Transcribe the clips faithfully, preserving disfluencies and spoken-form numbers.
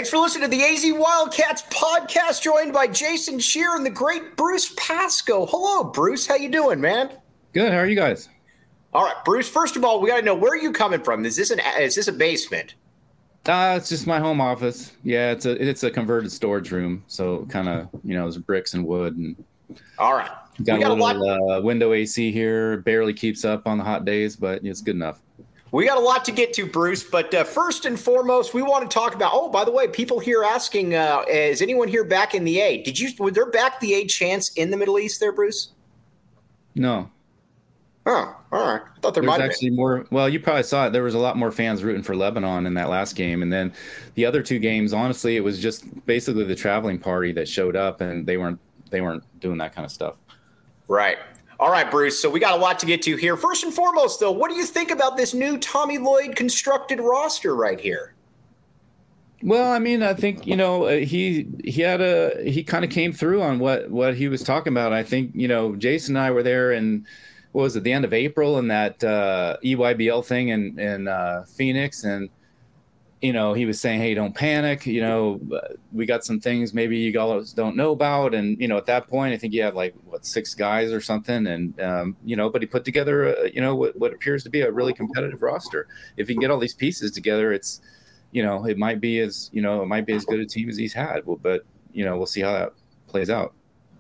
Thanks for listening to the A Z Wildcats podcast, joined by Jason Scheer and the great Bruce Pascoe. Hello, Bruce. How you doing, man? Good. How are you guys? All right, Bruce. First of all, we got to know, where are you coming from? Is this an is this a basement? Uh, it's just my home office. Yeah, it's a it's a converted storage room. So kind of, you know, there's bricks and wood. And all right. Got, got a little a uh, window A C here. Barely keeps up on the hot days, but it's good enough. We got a lot to get to, Bruce, but uh, first and foremost, we want to talk about, oh, by the way, people here asking, uh, is anyone here back in the A? Did you, were there back the A chance in the Middle East there, Bruce? No. Oh, all right. I thought there There's might actually been. more. Well, you probably saw it. There was a lot more fans rooting for Lebanon in that last game. And then the other two games, honestly, it was just basically the traveling party that showed up, and they weren't, they weren't doing that kind of stuff. Right. All right, Bruce, so we got a lot to get to here. First and foremost, though, what do you think about this new Tommy Lloyd constructed roster right here? Well, I mean, I think, you know, he he had a he kind of came through on what what he was talking about. I think, you know, Jason and I were there in, what was it, the end of April, in that uh, E Y B L thing in, in uh, Phoenix. And, you know, he was saying, hey, don't panic. You know, we got some things maybe you guys don't know about. And, you know, at that point, I think you had like, what, six guys or something. And, um, you know, but he put together, a, you know, what, what appears to be a really competitive roster. If he can get all these pieces together, it's, you know, it might be as, you know, it might be as good a team as he's had. But, you know, we'll see how that plays out.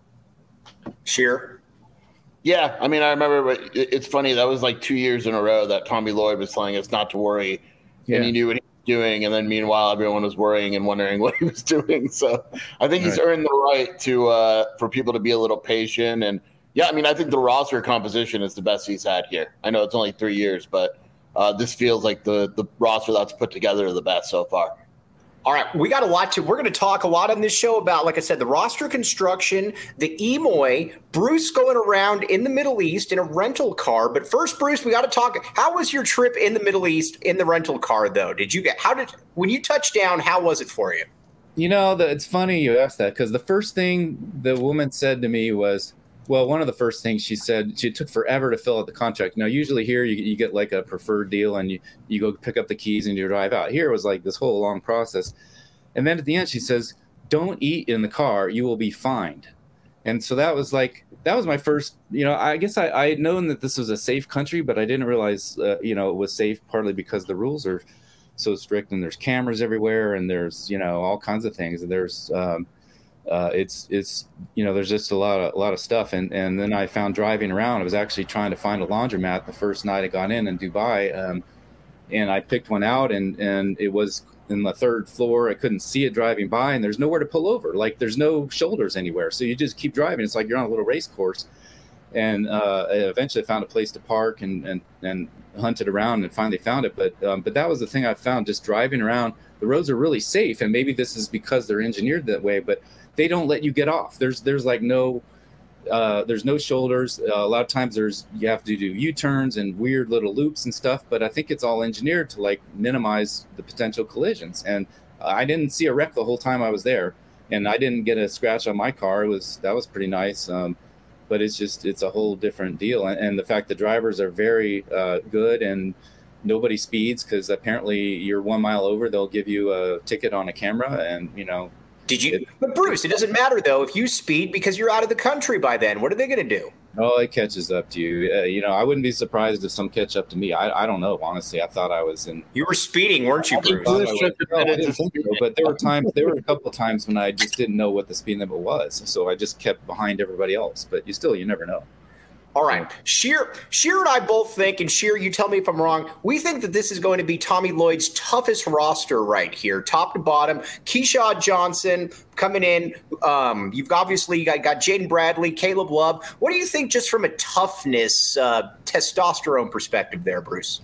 Scheer? Yeah, I mean, I remember, but it's funny. That was like two years in a row that Tommy Lloyd was telling us not to worry. Yeah. And he knew what he doing, and then meanwhile everyone was worrying and wondering what he was doing. So I think he's right. earned the right to uh for people to be a little patient. And yeah, I mean, I think the roster composition is the best he's had here. I know it's only three years, but uh this feels like the the roster that's put together the best so far. All right, we got a lot to, we're going to talk a lot on this show about, like I said, the roster construction, the E M O I, Bruce going around in the Middle East in a rental car. But first, Bruce, we got to talk, how was your trip in the Middle East in the rental car, though? Did you get, how did, when you touched down, how was it for you? You know, the, it's funny you asked that, because the first thing the woman said to me was, well, one of the first things she said, she took forever to fill out the contract. Now, usually here you, you get like a preferred deal and you, you go pick up the keys and you drive out. Here it was like this whole long process. And then at the end, she says, don't eat in the car. You will be fined. And so that was like, that was my first, you know, I guess I, I had known that this was a safe country, but I didn't realize, uh, you know, it was safe partly because the rules are so strict and there's cameras everywhere and there's, you know, all kinds of things. And there's, um, Uh, it's, it's, you know, there's just a lot of, a lot of stuff. And, and then I found driving around, I was actually trying to find a laundromat the first night I got in in Dubai. Um, and I picked one out and, and it was in the third floor. I couldn't see it driving by and there's nowhere to pull over. Like there's no shoulders anywhere. So you just keep driving. It's like you're on a little race course. And uh, I eventually found a place to park and, and, and hunted around and finally found it. But, um, but that was the thing I found, just driving around. The roads are really safe. And maybe this is because they're engineered that way, but they don't let you get off. There's there's like no uh, there's no shoulders. Uh, a lot of times there's you have to do U-turns and weird little loops and stuff. But I think it's all engineered to like minimize the potential collisions. And I didn't see a wreck the whole time I was there, and I didn't get a scratch on my car. It was that was pretty nice. Um, but it's just it's a whole different deal. And, and the fact the drivers are very uh, good and nobody speeds, because apparently you're one mile over, they'll give you a ticket on a camera, and you know. Did you? But Bruce, it doesn't matter though if you speed because you're out of the country by then. What are they going to do? Oh, it catches up to you. Uh, you know, I wouldn't be surprised if some catch up to me. I I don't know. Honestly, I thought I was in. You were speeding, weren't you, Bruce? I was, no, I didn't think so, but there were times. There were a couple of times when I just didn't know what the speed limit was, so I just kept behind everybody else. But you still, you never know. All right. Scheer, Scheer and I both think, and Scheer, you tell me if I'm wrong, we think that this is going to be Tommy Lloyd's toughest roster right here, top to bottom. Keyshawn Johnson coming in. Um, you've obviously got, got Jaden Bradley, Caleb Love. What do you think just from a toughness, uh, testosterone perspective there, Bruce?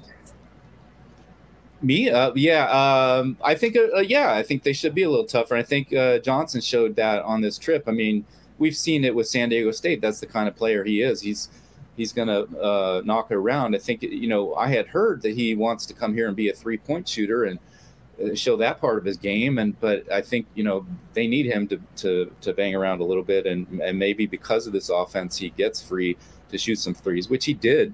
Me? Uh, yeah. Um, I think, uh, yeah, I think they should be a little tougher. I think uh, Johnson showed that on this trip. I mean, we've seen it with San Diego State. That's the kind of player he is. He's he's going to uh, knock it around. I think, you know, I had heard that he wants to come here and be a three-point shooter and show that part of his game. And but I think, you know, they need him to to, to bang around a little bit. And, and maybe because of this offense, he gets free to shoot some threes, which he did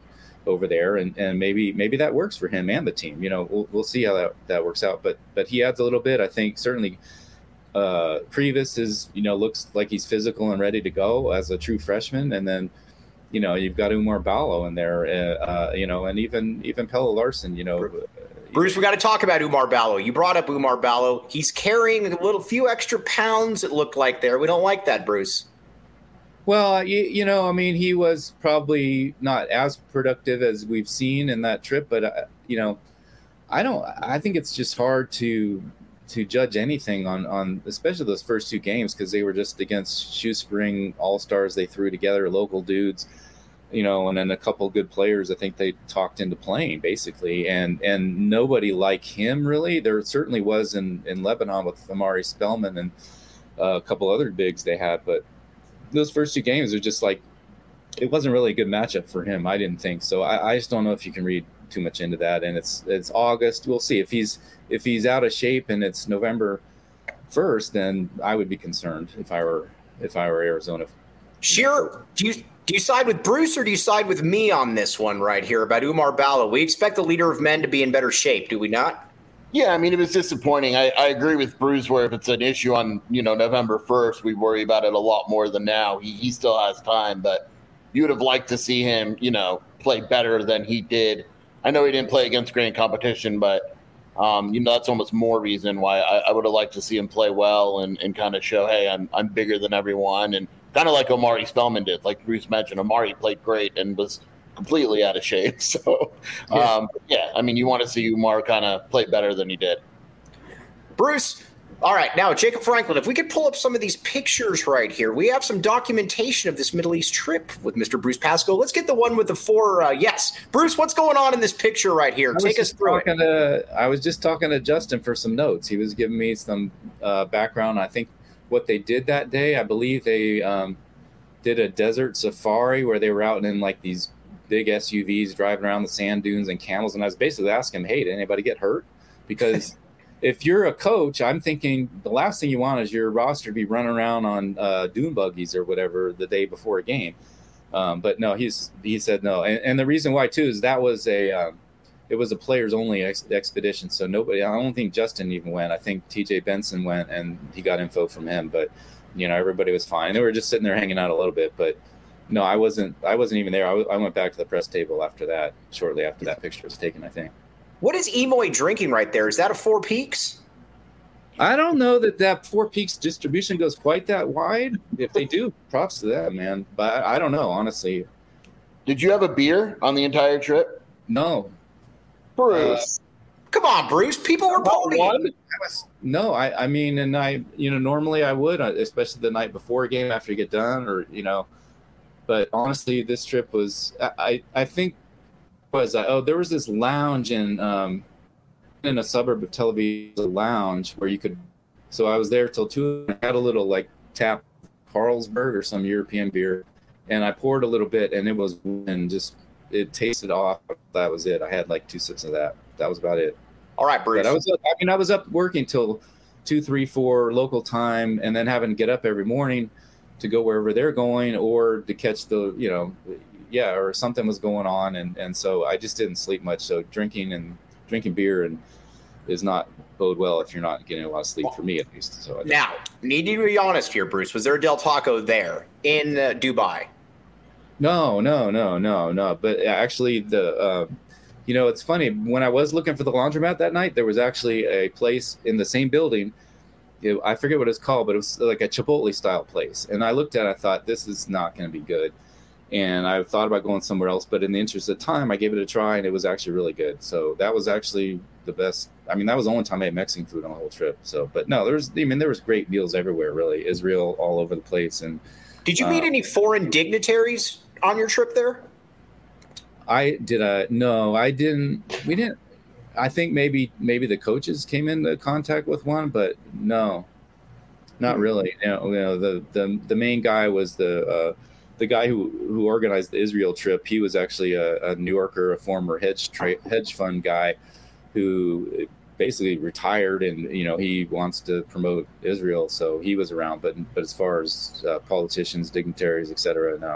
over there, and, and maybe maybe that works for him and the team. You know, we'll we'll see how that, that works out. But but he adds a little bit. I think certainly uh, Previs is you know looks like he's physical and ready to go as a true freshman, and then you know you've got Umar Ballo in there, uh, uh, you know, and even even Pelle Larson, you know. Bruce, we got to talk about Umar Ballo. You brought up Umar Ballo. He's carrying a little few extra pounds. It looked like there. We don't like that, Bruce. Well, you, you know, I mean, he was probably not as productive as we've seen in that trip, but uh, you know, I don't. I think it's just hard to to judge anything on on especially those first two games because they were just against shoestring all stars they threw together, local dudes, you know, and then a couple of good players. I think they talked into playing basically, and and nobody like him really. There certainly was in in Lebanon with Amari Spellman and uh, a couple other bigs they had, but those first two games are just like, it wasn't really a good matchup for him. I didn't think so. I, I just don't know if you can read too much into that. And it's it's August. We'll see if he's if he's out of shape and it's November first. Then I would be concerned if I were if I were Arizona. Shearer, do you do you side with Bruce or do you side with me on this one right here about Umar Ballo? We expect the leader of men to be in better shape, do we not? Yeah, I mean, it was disappointing. I, I agree with Bruce where if it's an issue on, you know, November first, we worry about it a lot more than now. He, he still has time, but you would have liked to see him, you know, play better than he did. I know he didn't play against great competition, but, um, you know, that's almost more reason why I, I would have liked to see him play well and, and kind of show, hey, I'm I'm bigger than everyone. And kind of like Omari Spellman did, like Bruce mentioned. Omari played great and was completely out of shape. So, yeah, um, yeah I mean, you want to see Umar kind of play better than he did. Bruce, all right, now, Jacob Franklin, if we could pull up some of these pictures right here. We have some documentation of this Middle East trip with Mister Bruce Pascoe. Let's get the one with the four. Uh, yes. Bruce, what's going on in this picture right here? Take us through it. To, I was just talking to Justin for some notes. He was giving me some uh, background. I think what they did that day, I believe they um, did a desert safari where they were out in like these big S U Vs driving around the sand dunes and camels. And I was basically asking him, hey, did anybody get hurt? Because if you're a coach, I'm thinking the last thing you want is your roster to be running around on uh, dune buggies or whatever the day before a game. Um, but no, he's he said no. And, and the reason why, too, is that was a um, it was a players only ex- expedition. So nobody, I don't think Justin even went. I think T J Benson went and he got info from him. But, you know, everybody was fine. They were just sitting there hanging out a little bit. But no, I wasn't. I wasn't even there. I, w- I went back to the press table after that. Shortly after that picture was taken, I think. What is Emoy drinking right there? Is that a Four Peaks? I don't know that that Four Peaks distribution goes quite that wide. If they do, props to that, man. But I, I don't know, honestly. Did you have a beer on the entire trip? No, Bruce. Uh, come on, Bruce. People were partying. No, I, I mean, and I, you know, normally I would, especially the night before a game after you get done, or you know. But honestly, this trip was, I, I think, was uh, oh, there was this lounge in, um, in a suburb of Tel Aviv, a lounge where you could. So I was there till two. I had a little like tap Carlsberg or some European beer, and I poured a little bit, and it was and just it tasted off. That was it. I had like two sips of that. That was about it. All right, Bruce. But I was up, I mean, I was up working till two, three, four local time, and then having to get up every morning to go wherever they're going or to catch the, you know, yeah, or something was going on. And, and so I just didn't sleep much. So drinking and drinking beer and is not bode well if you're not getting a lot of sleep, for me at least. So I now, need to be honest here, Bruce. Was there a Del Taco there in uh, Dubai? No, no, no, no, no. But actually the, uh, you know, it's funny. When I was looking for the laundromat that night, there was actually a place in the same building. It, I forget what it's called, but it was like a Chipotle style place. And I looked at it, I thought, this is not going to be good. And I thought about going somewhere else, but in the interest of time, I gave it a try, and it was actually really good. So that was actually the best. I mean, that was the only time I ate Mexican food on the whole trip. So, but no, there was, I mean, there was great meals everywhere, really. Israel all over the place. And did you meet uh, any foreign dignitaries on your trip there? I did. Uh, no, I didn't. We didn't. I think maybe maybe the coaches came into contact with one, but no, not really. You know, you know the, the the main guy was the uh, the guy who, who organized the Israel trip. He was actually a, a New Yorker, a former hedge tra- hedge fund guy who basically retired, and you know he wants to promote Israel, so he was around. But but as far as uh, politicians, dignitaries, et cetera, no.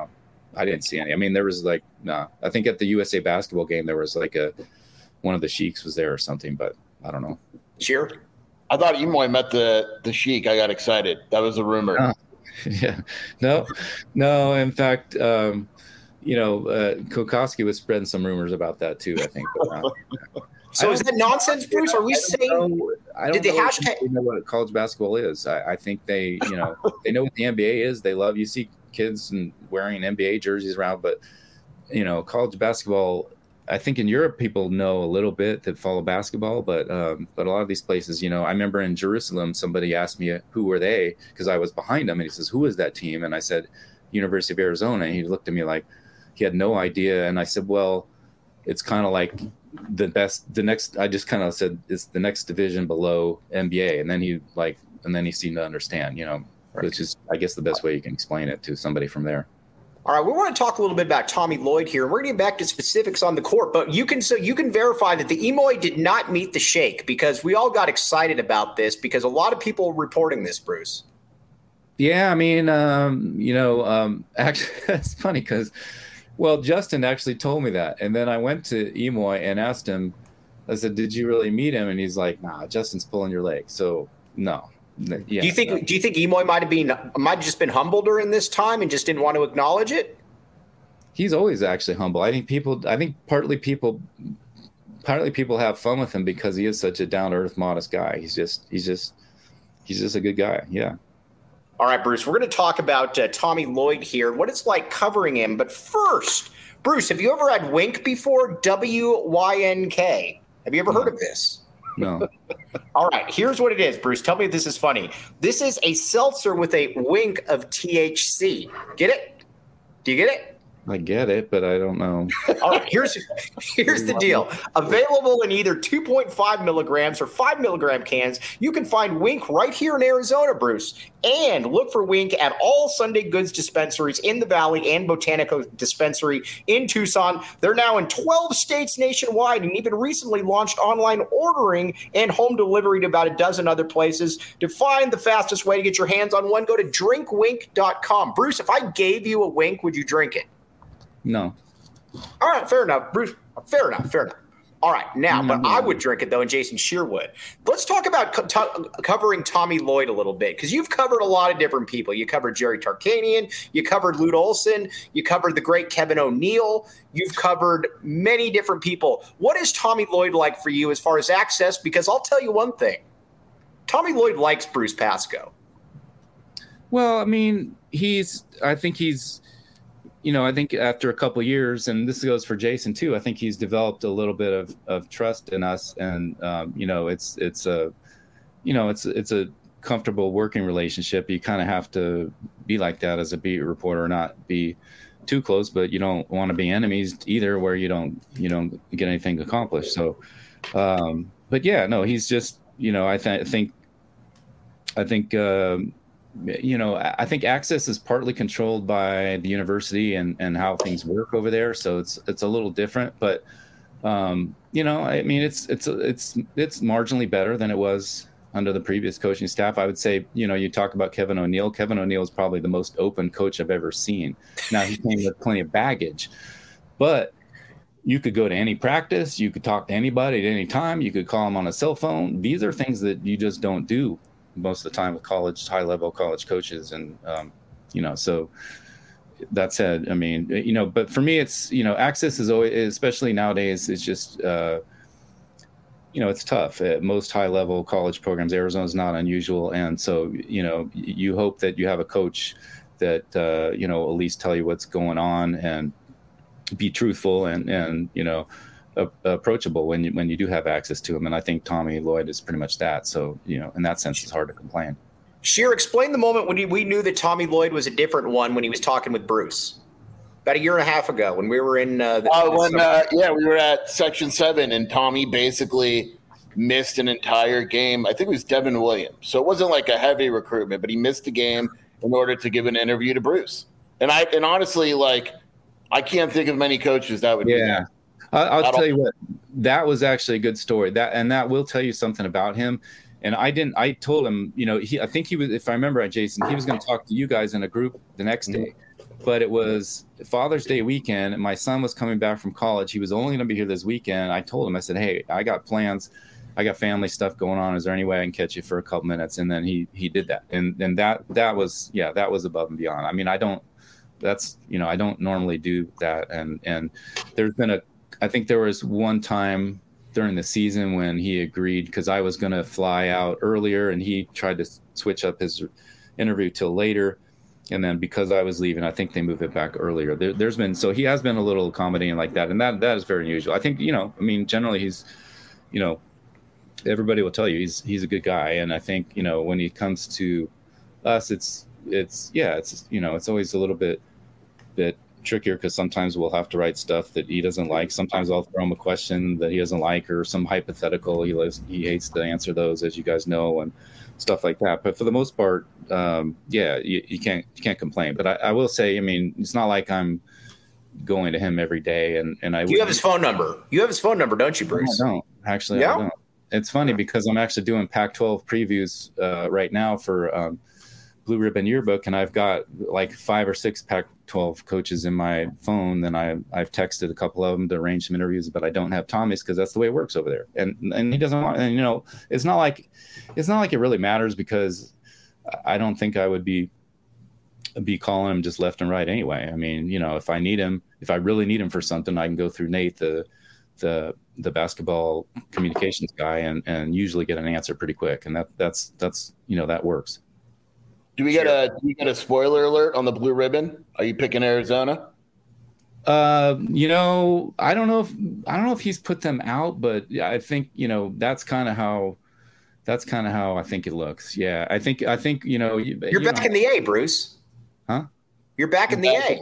I didn't see any. I mean, there was like, nah, I think at the U S A basketball game, there was like a, one of the Sheiks was there or something, but I don't know. Sure. I thought Imoy met the, the Sheik. I got excited. That was a rumor. Uh, yeah, no, no. In fact, um, you know, uh, Kokoski was spreading some rumors about that too, I think. But, uh, so is that nonsense, Bruce? Are we I saying know, I don't did they know, hashtag- they know what college basketball is? I, I think they, you know, they know what the N B A is. They love, you see kids and wearing N B A jerseys around, but you know, college basketball, I think in Europe people know a little bit that follow basketball, but um, but a lot of these places, you know, I remember in Jerusalem, somebody asked me who were they because I was behind them, and he says, "Who is that team?" And I said, "University of Arizona." And he looked at me like he had no idea, and I said, "Well, it's kind of like the best, the next." I just kind of said it's the next division below N B A, and then he like, and then he seemed to understand, you know, right. Which is, I guess, the best way you can explain it to somebody from there. All right, we want to talk a little bit about Tommy Lloyd here. We're going to get back to specifics on the court, but you can so you can verify that the Imoy did not meet the Sheik because we all got excited about this because a lot of people were reporting this, Bruce. Yeah, I mean, um, you know, um, actually, it's funny because, well, Justin actually told me that, and then I went to Imoy and asked him. I said, "Did you really meet him?" And he's like, "Nah, Justin's pulling your leg." So no. Yeah, do you think? no. Do you think Imoy might have been might have just been humbled during this time and just didn't want to acknowledge it? He's always actually humble. I think people. I think partly people, partly people have fun with him because he is such a down to earth, modest guy. He's just. He's just. He's just a good guy. Yeah. All right, Bruce. We're going to talk about uh, Tommy Lloyd here, what it's like covering him. But first, Bruce, have you ever had Wink before? W Y N K. Have you ever No. heard of this? No. All right, here's what it is, Bruce. Tell me if this is funny. This is a seltzer with a wink of T H C. Get it? Do you get it? I get it, but I don't know. All right, here's here's the deal. Available in either two point five milligrams or five milligram cans. You can find Wink right here in Arizona, Bruce. And look for Wink at all Sunday Goods dispensaries in the Valley and Botanico Dispensary in Tucson. They're now in twelve states nationwide and even recently launched online ordering and home delivery to about a dozen other places. To find the fastest way to get your hands on one, go to drink wink dot com. Bruce, if I gave you a Wink, would you drink it? No. All right, fair enough, Bruce. Fair enough, fair enough. All right, now, but I would drink it, though, and Jason Scheer would. Let's talk about co- to- covering Tommy Lloyd a little bit, because you've covered a lot of different people. You covered Jerry Tarkanian. You covered Lute Olson. You covered the great Kevin O'Neill. You've covered many different people. What is Tommy Lloyd like for you as far as access? Because I'll tell you one thing. Tommy Lloyd likes Bruce Pascoe. Well, I mean, he's – I think he's – you know, I think after a couple of years, and this goes for Jason too, I think he's developed a little bit of, of trust in us, and um, you know, it's it's a, you know, it's it's a comfortable working relationship. You kind of have to be like that as a beat reporter, not be too close, but you don't want to be enemies either, where you don't you don't get anything accomplished. So, um, but yeah, no, he's just, you know, I th- think, I think. Um, you know, I think access is partly controlled by the university and, and how things work over there. So it's, it's a little different, but, um, you know, I mean, it's, it's, it's, it's marginally better than it was under the previous coaching staff. I would say, you know, you talk about Kevin O'Neill. Kevin O'Neill is probably the most open coach I've ever seen. Now, he came with plenty of baggage, but you could go to any practice. You could talk to anybody at any time. You could call him on a cell phone. These are things that you just don't do most of the time with college, high level college coaches. And, um, you know, so that said, I mean, you know, but for me, it's, you know, access is always, especially nowadays, it's just, uh, you know, it's tough at most high level college programs. Arizona's not unusual. And so, you know, you hope that you have a coach that, uh, you know, at least tell you what's going on and be truthful and, and, you know, approachable when you when you do have access to him. And I think Tommy Lloyd is pretty much that. So, you know, in that sense, it's hard to complain. Scheer, explain the moment when we knew that Tommy Lloyd was a different one when he was talking with Bruce. About a year and a half ago when we were in uh, the, uh, when uh, yeah, we were at Section seven and Tommy basically missed an entire game. I think it was Devin Williams. So it wasn't like a heavy recruitment, but he missed a game in order to give an interview to Bruce. And I and honestly, like, I can't think of many coaches that would yeah. do that. I'll, I'll tell you what, that was actually a good story. That and that will tell you something about him. And I didn't. I told him, you know, he. I think he was. If I remember right, Jason, he was going to talk to you guys in a group the next day. but it was Father's Day weekend, and my son was coming back from college. He was only going to be here this weekend. I told him, I said, hey, I got plans. I got family stuff going on. Is there any way I can catch you for a couple minutes? And then he he did that. And and that that was, yeah, that was above and beyond. I mean, I don't, that's, you know, I don't normally do that. And and there's been a, I think there was one time during the season when he agreed, because I was going to fly out earlier and he tried to switch up his interview till later. And then because I was leaving, I think they moved it back earlier. There, there's been, so he has been a little accommodating like that. And that that is very unusual. I think, you know, I mean, generally he's, you know, everybody will tell you he's he's a good guy. And I think, you know, when he comes to us, it's, it's, yeah, it's, you know, it's always a little bit, bit trickier because sometimes we'll have to write stuff that he doesn't like. Sometimes I'll throw him a question that he doesn't like or some hypothetical. He lives, he hates to answer those, as you guys know, and stuff like that. But for the most part, um, yeah, you, you can't you can't complain. But I, I will say, I mean, it's not like I'm going to him every day. And and I you have his phone number. You have his phone number, don't you, Bruce? No, I don't actually. Yeah? I don't. It's funny because I'm actually doing Pac twelve previews uh, right now for um, Blue Ribbon Yearbook, and I've got like five or six Pac twelve coaches in my phone. Then I I've texted a couple of them to arrange some interviews, but I don't have Tommy's because that's the way it works over there. And and he doesn't want. And you know, it's not like it's not like it really matters because I don't think I would be be calling him just left and right anyway. I mean, you know, if I need him, if I really need him for something, I can go through Nate, the the the basketball communications guy, and and usually get an answer pretty quick. And that that's that's you know that works. Do we get a do we get a spoiler alert on the Blue Ribbon? Are you picking Arizona? Uh, you know, I don't know if I don't know if he's put them out, but I think you know that's kind of how that's kind of how I think it looks. Yeah, I think I think you know you, you're you back know, in the A, Bruce. Huh? You're back in the A.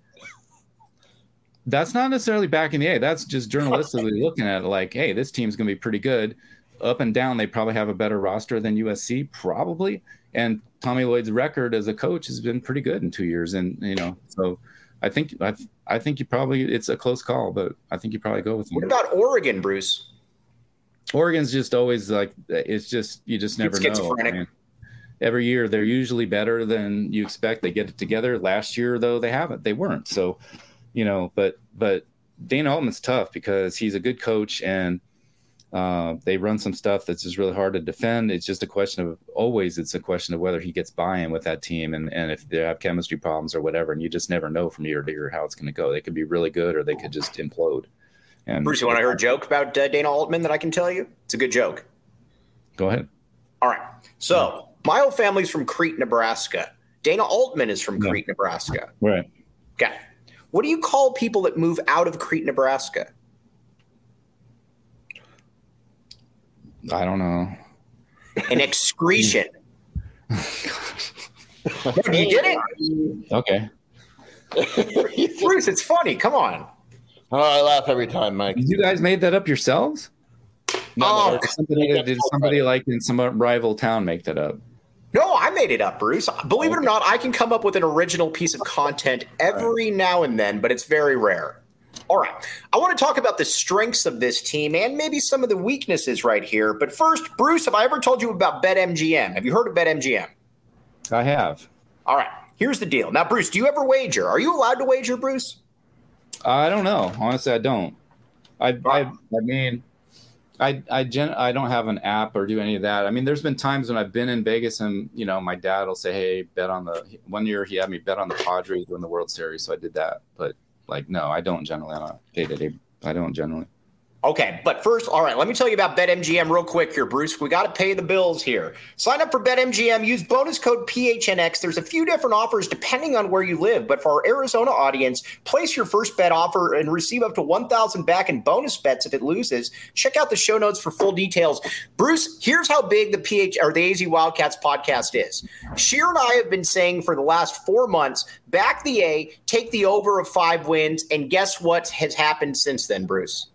That's not necessarily back in the A. That's just journalistically looking at it like, hey, this team's going to be pretty good. Up and down, they probably have a better roster than U S C, probably. And Tommy Lloyd's record as a coach has been pretty good in two years. And, you know, so I think I, I think you probably – it's a close call, but I think you probably go with him. What about Oregon, Bruce? Oregon's just always like – it's just – you just never know. I mean, every year they're usually better than you expect. They get it together. Last year, though, they haven't. They weren't. So – you know, but but Dana Altman's tough because he's a good coach and uh, they run some stuff that's just really hard to defend. It's just a question of always it's a question of whether he gets buy-in with that team and, and if they have chemistry problems or whatever. And you just never know from year to year how it's going to go. They could be really good or they could just implode. And Bruce, you want to hear a joke about uh, Dana Altman that I can tell you? It's a good joke. Go ahead. All right. So my whole family's from Crete, Nebraska. Dana Altman is from Yeah. Crete, Nebraska. Right. Okay. What do you call people that move out of Crete, Nebraska? I don't know. An excretion. You did it? Okay. Bruce, it's funny. Come on. Oh, I laugh every time, Mike. You guys made that up yourselves? Oh, Or did somebody, did somebody like in some rival town make that up? no, I made it up, Bruce. Believe it or not, I can come up with an original piece of content every now and then, but it's very rare. All right. I want to talk about the strengths of this team and maybe some of the weaknesses right here. But first, Bruce, have I ever told you about BetMGM? Have you heard of BetMGM? I have. All right. Here's the deal. Now, Bruce, do you ever wager? Are you allowed to wager, Bruce? I don't know. Honestly, I don't. I I, I mean, I I gen I don't have an app or do any of that. I mean, there's been times when I've been in Vegas and you know my dad will say, "Hey, bet on the." One year he had me bet on the Padres win the World Series, so I did that. But like, no, I don't generally on a day to day. I don't generally. Okay, but first, all right, let me tell you about BetMGM real quick here, Bruce. We got to pay the bills here. Sign up for BetMGM. Use bonus code P H N X. There's a few different offers depending on where you live, but for our Arizona audience, place your first bet offer and receive up to one thousand dollars back in bonus bets if it loses. Check out the show notes for full details. Bruce, here's how big the P H or the A Z Wildcats podcast is. Sheer and I have been saying for the last four months, back the A, take the over of five wins, and guess what has happened since then, Bruce?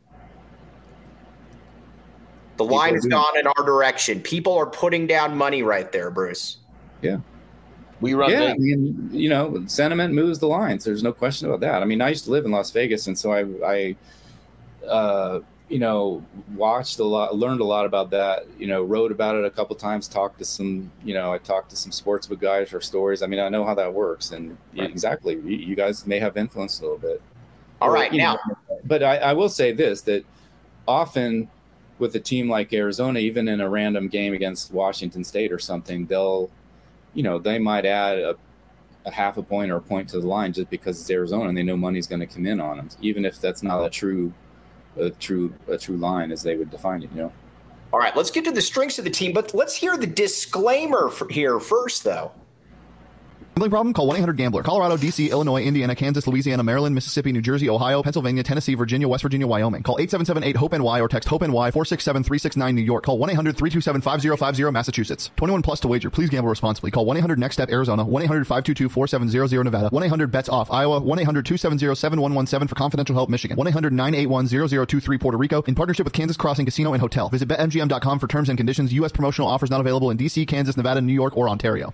The line has gone in our direction. People are putting down money right there, Bruce. Yeah. We run. Yeah, the- I mean, you know, sentiment moves the lines. There's no question about that. I mean, I used to live in Las Vegas, and so I, I uh, you know, watched a lot, learned a lot about that, you know, wrote about it a couple times, talked to some, you know, I talked to some sportsbook guys for stories. I mean, I know how that works. And right. exactly, you, you guys may have influenced a little bit. All or, right, now. Know, but I, I will say this, that often with a team like Arizona, even in a random game against Washington State or something, they'll, you know, they might add a, a half a point or a point to the line just because it's Arizona and they know money's going to come in on them, even if that's not a true a true a true line as they would define it, you know. All right, let's get to the strengths of the team, but let's hear the disclaimer for here first, though. Gambling problem? Call one eight hundred gambler. Colorado, D C, Illinois, Indiana, Kansas, Louisiana, Maryland, Mississippi, New Jersey, Ohio, Pennsylvania, Tennessee, Virginia, West Virginia, Wyoming. Call eight seven seven eight hope N Y or text HOPE-NY four six seven three six nine New York. Call one eight hundred three two seven five zero five zero Massachusetts. twenty-one plus to wager. Please gamble responsibly. Call one eight hundred next step Arizona, one eight hundred five two two four seven zero zero Nevada, one eight hundred bets off Iowa, one eight hundred two seven zero seven one one seven for confidential help Michigan, one eight hundred nine eight one zero zero two three Puerto Rico in partnership with Kansas Crossing Casino and Hotel. Visit bet M G M dot com for terms and conditions. U S promotional offers not available in D C, Kansas, Nevada, New York, or Ontario.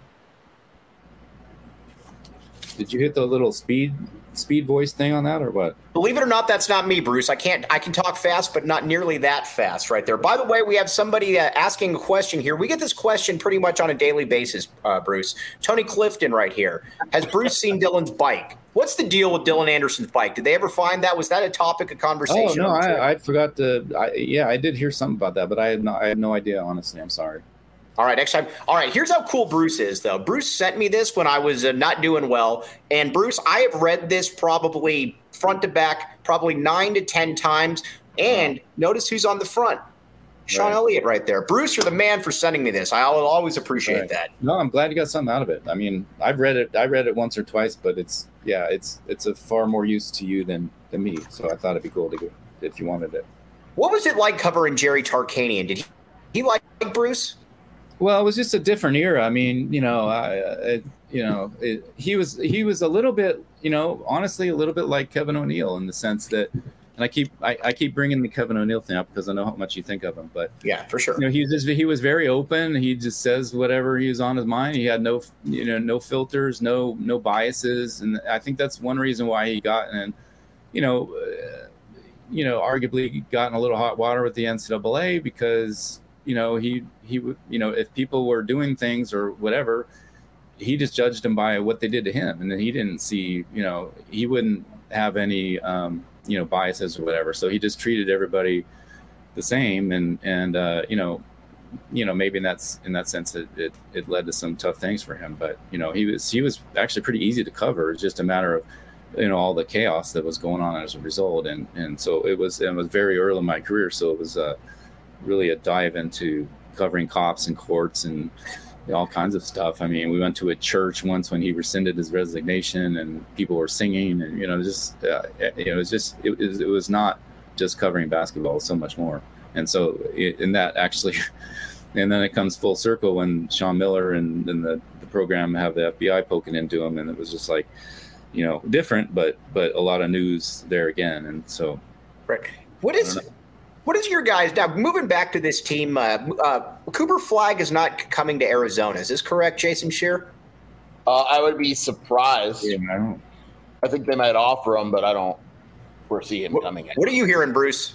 Did you hit the little speed speed voice thing on that or what? Believe it or not, that's not me, Bruce. I can't. I can talk fast, but not nearly that fast right there. By the way, we have somebody uh, asking a question here. We get this question pretty much on a daily basis, uh, Bruce. Tony Clifton right here. Has Bruce seen Dylan's bike? What's the deal with Dylan Anderson's bike? Did they ever find that? Was that a topic of conversation? Oh, no, I, I forgot to. I, yeah, I did hear something about that, but I had no, I had no idea, honestly. I'm sorry. All right, next time. All right, here's how cool Bruce is, though. Bruce sent me this when I was uh, not doing well. And, Bruce, I have read this probably front to back, probably nine to ten times. And notice who's on the front. Sean right. Elliott right there. Bruce, you're the man for sending me this. I'll always appreciate right. that. No, I'm glad you got something out of it. I mean, I've read it. I read it once or twice, but it's, yeah, it's it's a far more use to you than, than me. So I thought it'd be cool to go if you wanted it. What was it like covering Jerry Tarkanian? Did he, he like Bruce? Well, it was just a different era. I mean, you know, I, it, you know, it, he was he was a little bit, you know, honestly, a little bit like Kevin O'Neill in the sense that, and I keep I, I keep bringing the Kevin O'Neill thing up because I know how much you think of him. But yeah, for sure. You know, he was just, he was very open. He just says whatever he was on his mind. He had no, you know, no filters, no no biases, and I think that's one reason why he got and, you know, uh, you know, arguably got in a little hot water with the N C double A because. You know, he, he would, you know, if people were doing things or whatever, he just judged them by what they did to him. And then he didn't see, you know, he wouldn't have any, um, you know, biases or whatever. So he just treated everybody the same. And, and, uh, you know, you know, maybe in that's, in that sense, it, it, it led to some tough things for him, but, you know, he was, he was actually pretty easy to cover. It's just a matter of, you know, all the chaos that was going on as a result. And, and so it was, it was very early in my career. So it was, uh, really a dive into covering cops and courts and all kinds of stuff. I mean, we went to a church once when he rescinded his resignation and people were singing and, you know, just, uh, you know, it was just, it was, it was not just covering basketball, it was so much more. And so in that actually, and then it comes full circle when Sean Miller and, and the, the program have the F B I poking into him. And it was just like, you know, different, but, but a lot of news there again. And so. Right. What is, What is your guys now moving back to this team? Uh, uh, Cooper Flagg is not coming to Arizona. Is this correct, Jason Scheer? Uh, I would be surprised. Yeah, I, don't. I think they might offer him, but I don't foresee him what, coming in. What are you hearing, Bruce?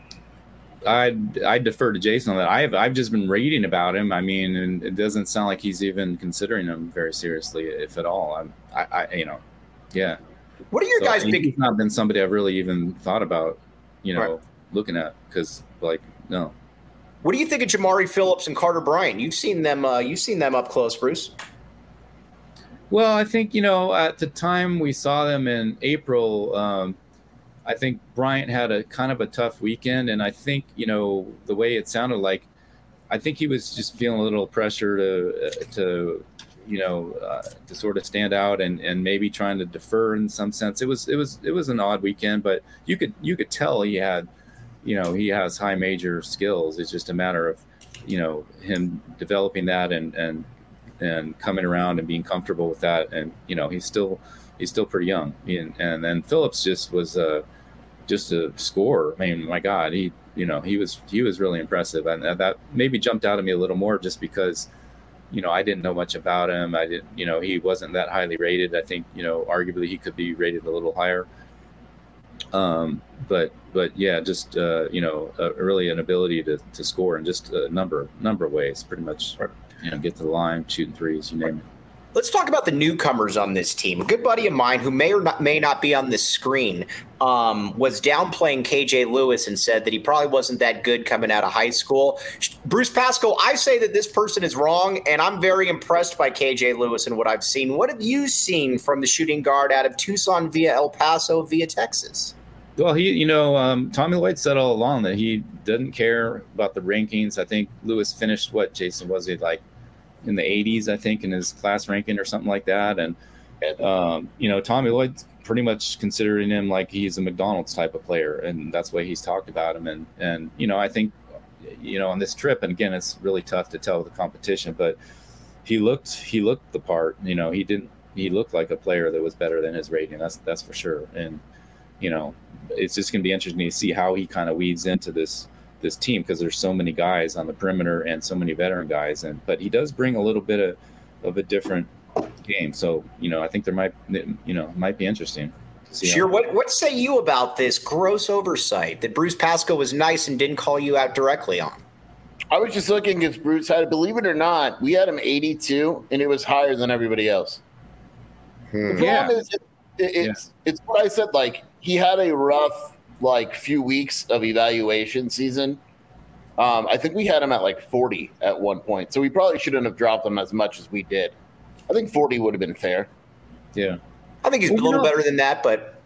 I I defer to Jason on that. I've I've just been reading about him. I mean, and it doesn't sound like he's even considering him very seriously, if at all. I'm, I, I you know, yeah. What are your so, guys' I mean, big? He's not been somebody I've really even thought about, you know. Right. Looking at because like no. What do you think of Jamari Phillips and Carter Bryant? You've seen them. Uh, you've seen them up close, Bruce. Well, I think you know at the time we saw them in April. Um, I think Bryant had a kind of a tough weekend, and I think you know the way it sounded like. I think he was just feeling a little pressure to uh, to you know uh, to sort of stand out and, and maybe trying to defer in some sense. It was it was it was an odd weekend, but you could you could tell he had. You know, he has high major skills. It's just a matter of, you know, him developing that and, and, and coming around and being comfortable with that. And, you know, he's still, he's still pretty young. And, and then Phillips just was uh, just a scorer. I mean, my God, he, you know, he was, he was really impressive. And that maybe jumped out at me a little more just because, you know, I didn't know much about him. I didn't, you know, he wasn't that highly rated. I think, you know, arguably he could be rated a little higher. Um, but but yeah, just uh, you know, uh, really an ability to, to score in just a number number of ways. Pretty much, you know, get to the line, shooting threes, you name it. Let's talk about the newcomers on this team. A good buddy of mine who may or not, may not be on this screen um, was downplaying K J Lewis and said that he probably wasn't that good coming out of high school. Bruce Pascoe, I say that this person is wrong, and I'm very impressed by K J Lewis and what I've seen. What have you seen from the shooting guard out of Tucson via El Paso via Texas? Well, he, you know, um, Tommy Lloyd said all along that he didn't care about the rankings. I think Lewis finished what, Jason, was he like in the eighties, I think, in his class ranking or something like that. And, um, you know, Tommy Lloyd's pretty much considering him like he's a McDonald's type of player. And that's the way he's talked about him. And, and, you know, I think, you know, on this trip, and again, it's really tough to tell the competition, but he looked, he looked the part, you know, he didn't, he looked like a player that was better than his rating. That's, that's for sure. And, you know, it's just going to be interesting to see how he kind of weaves into this, this team, because there's so many guys on the perimeter and so many veteran guys, and but he does bring a little bit of, of a different game. So, you know, I think there might, you know, might be interesting. Sure. What what say you about this gross oversight that Bruce Pascoe was nice and didn't call you out directly on? I was just looking at Bruce had, believe it or not, we had him eighty-two, and it was higher than everybody else. Hmm. The problem yeah. is it, it, it's yeah. it's what I said. Like, he had a rough like few weeks of evaluation season. Um, I think we had him at like forty at one point, so we probably shouldn't have dropped him as much as we did. I think forty would have been fair. Yeah, I think he's well, a little know, better than that, but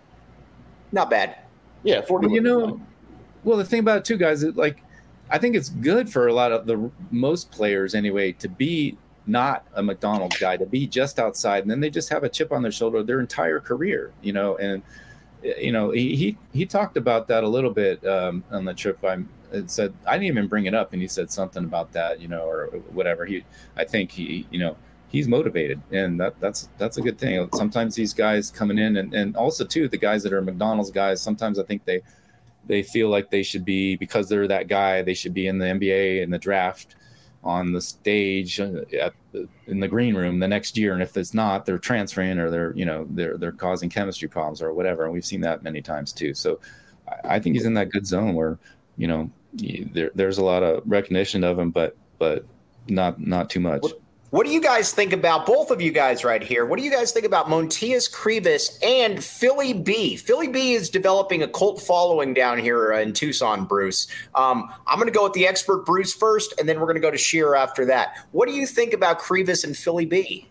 not bad. Yeah, forty. Well, you know, well, the thing about it too, guys, is like, I think it's good for a lot of the most players anyway to be not a McDonald's guy, to be just outside, and then they just have a chip on their shoulder their entire career, you know, and. You know, he, he he talked about that a little bit um, on the trip. I said I didn't even bring it up, and he said something about that, you know, or whatever. He, I think he, you know, he's motivated, and that that's that's a good thing. Sometimes these guys coming in, and, and also too the guys that are McDonald's guys. Sometimes I think they they feel like they should be, because they're that guy, they should be in the N B A in the draft, on the stage, at the, in the green room the next year, and if it's not, they're transferring, or they're, you know, they're they're causing chemistry problems or whatever. And we've seen that many times too. So I, I think he's in that good zone where, you know, there, there's a lot of recognition of him, but but not not too much. What, what do you guys think about, both of you guys right here? What do you guys think about Montias Krivas and Philly B? Philly B is developing a cult following down here in Tucson, Bruce. Um, I'm going to go with the expert Bruce first, and then we're going to go to Shearer after that. What do you think about Krivas and Philly B?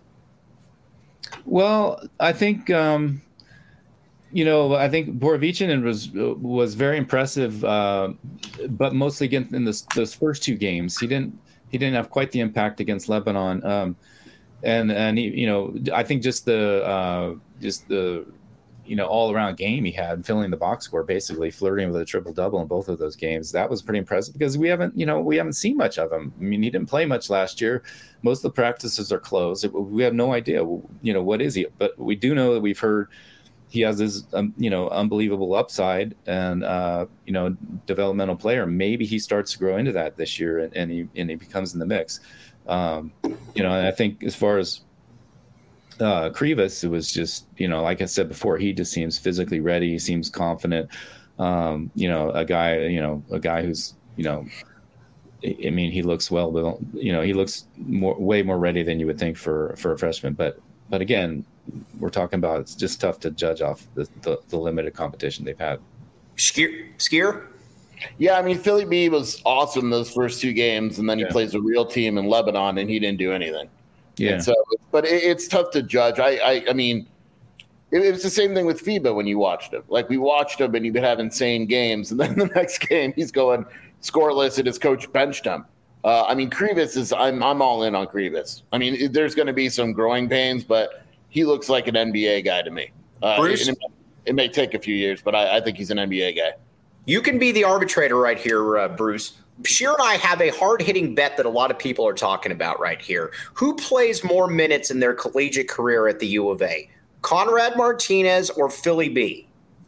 Well, I think, um, you know, I think Borovichinen was was very impressive, uh, but mostly against in this, those first two games. He didn't he didn't have quite the impact against Lebanon, um, and and he, you know, I think just the uh, just the you know all around game he had, filling the box score, basically flirting with a triple double in both of those games. That was pretty impressive, because we haven't you know we haven't seen much of him. I mean, he didn't play much last year. Most of the practices are closed. We have no idea, you know, what is he, but we do know that we've heard he has this, um, you know, unbelievable upside and, uh, you know, developmental player. Maybe he starts to grow into that this year, and, and he and he becomes in the mix. Um, you know, and I think as far as uh, Krivas, it was just, you know, like I said before, he just seems physically ready. He seems confident. Um, you know, a guy, you know, a guy who's, you know, I mean, he looks well, but you know, he looks more, way more ready than you would think for for a freshman. But but again, we're talking about, it's just tough to judge off the, the, the limited competition they've had. Skier, Skier? Yeah, I mean, Philly B was awesome those first two games, and then he yeah. plays a real team in Lebanon, and he didn't do anything. Yeah. And so, but it, it's tough to judge. I, I, I mean, it, it was the same thing with FIBA when you watched him. Like, we watched him, and he would have insane games, and then the next game he's going scoreless, and his coach benched him. Uh, I mean, Krivas is. I'm, I'm all in on Krivas. I mean, it, there's going to be some growing pains, but he looks like an N B A guy to me. Uh, Bruce? It, it may take a few years, but I, I think he's an N B A guy. You can be the arbitrator right here, uh, Bruce. Shearer and I have a hard-hitting bet that a lot of people are talking about right here. Who plays more minutes in their collegiate career at the U of A? Conrad Martinez or Philly B?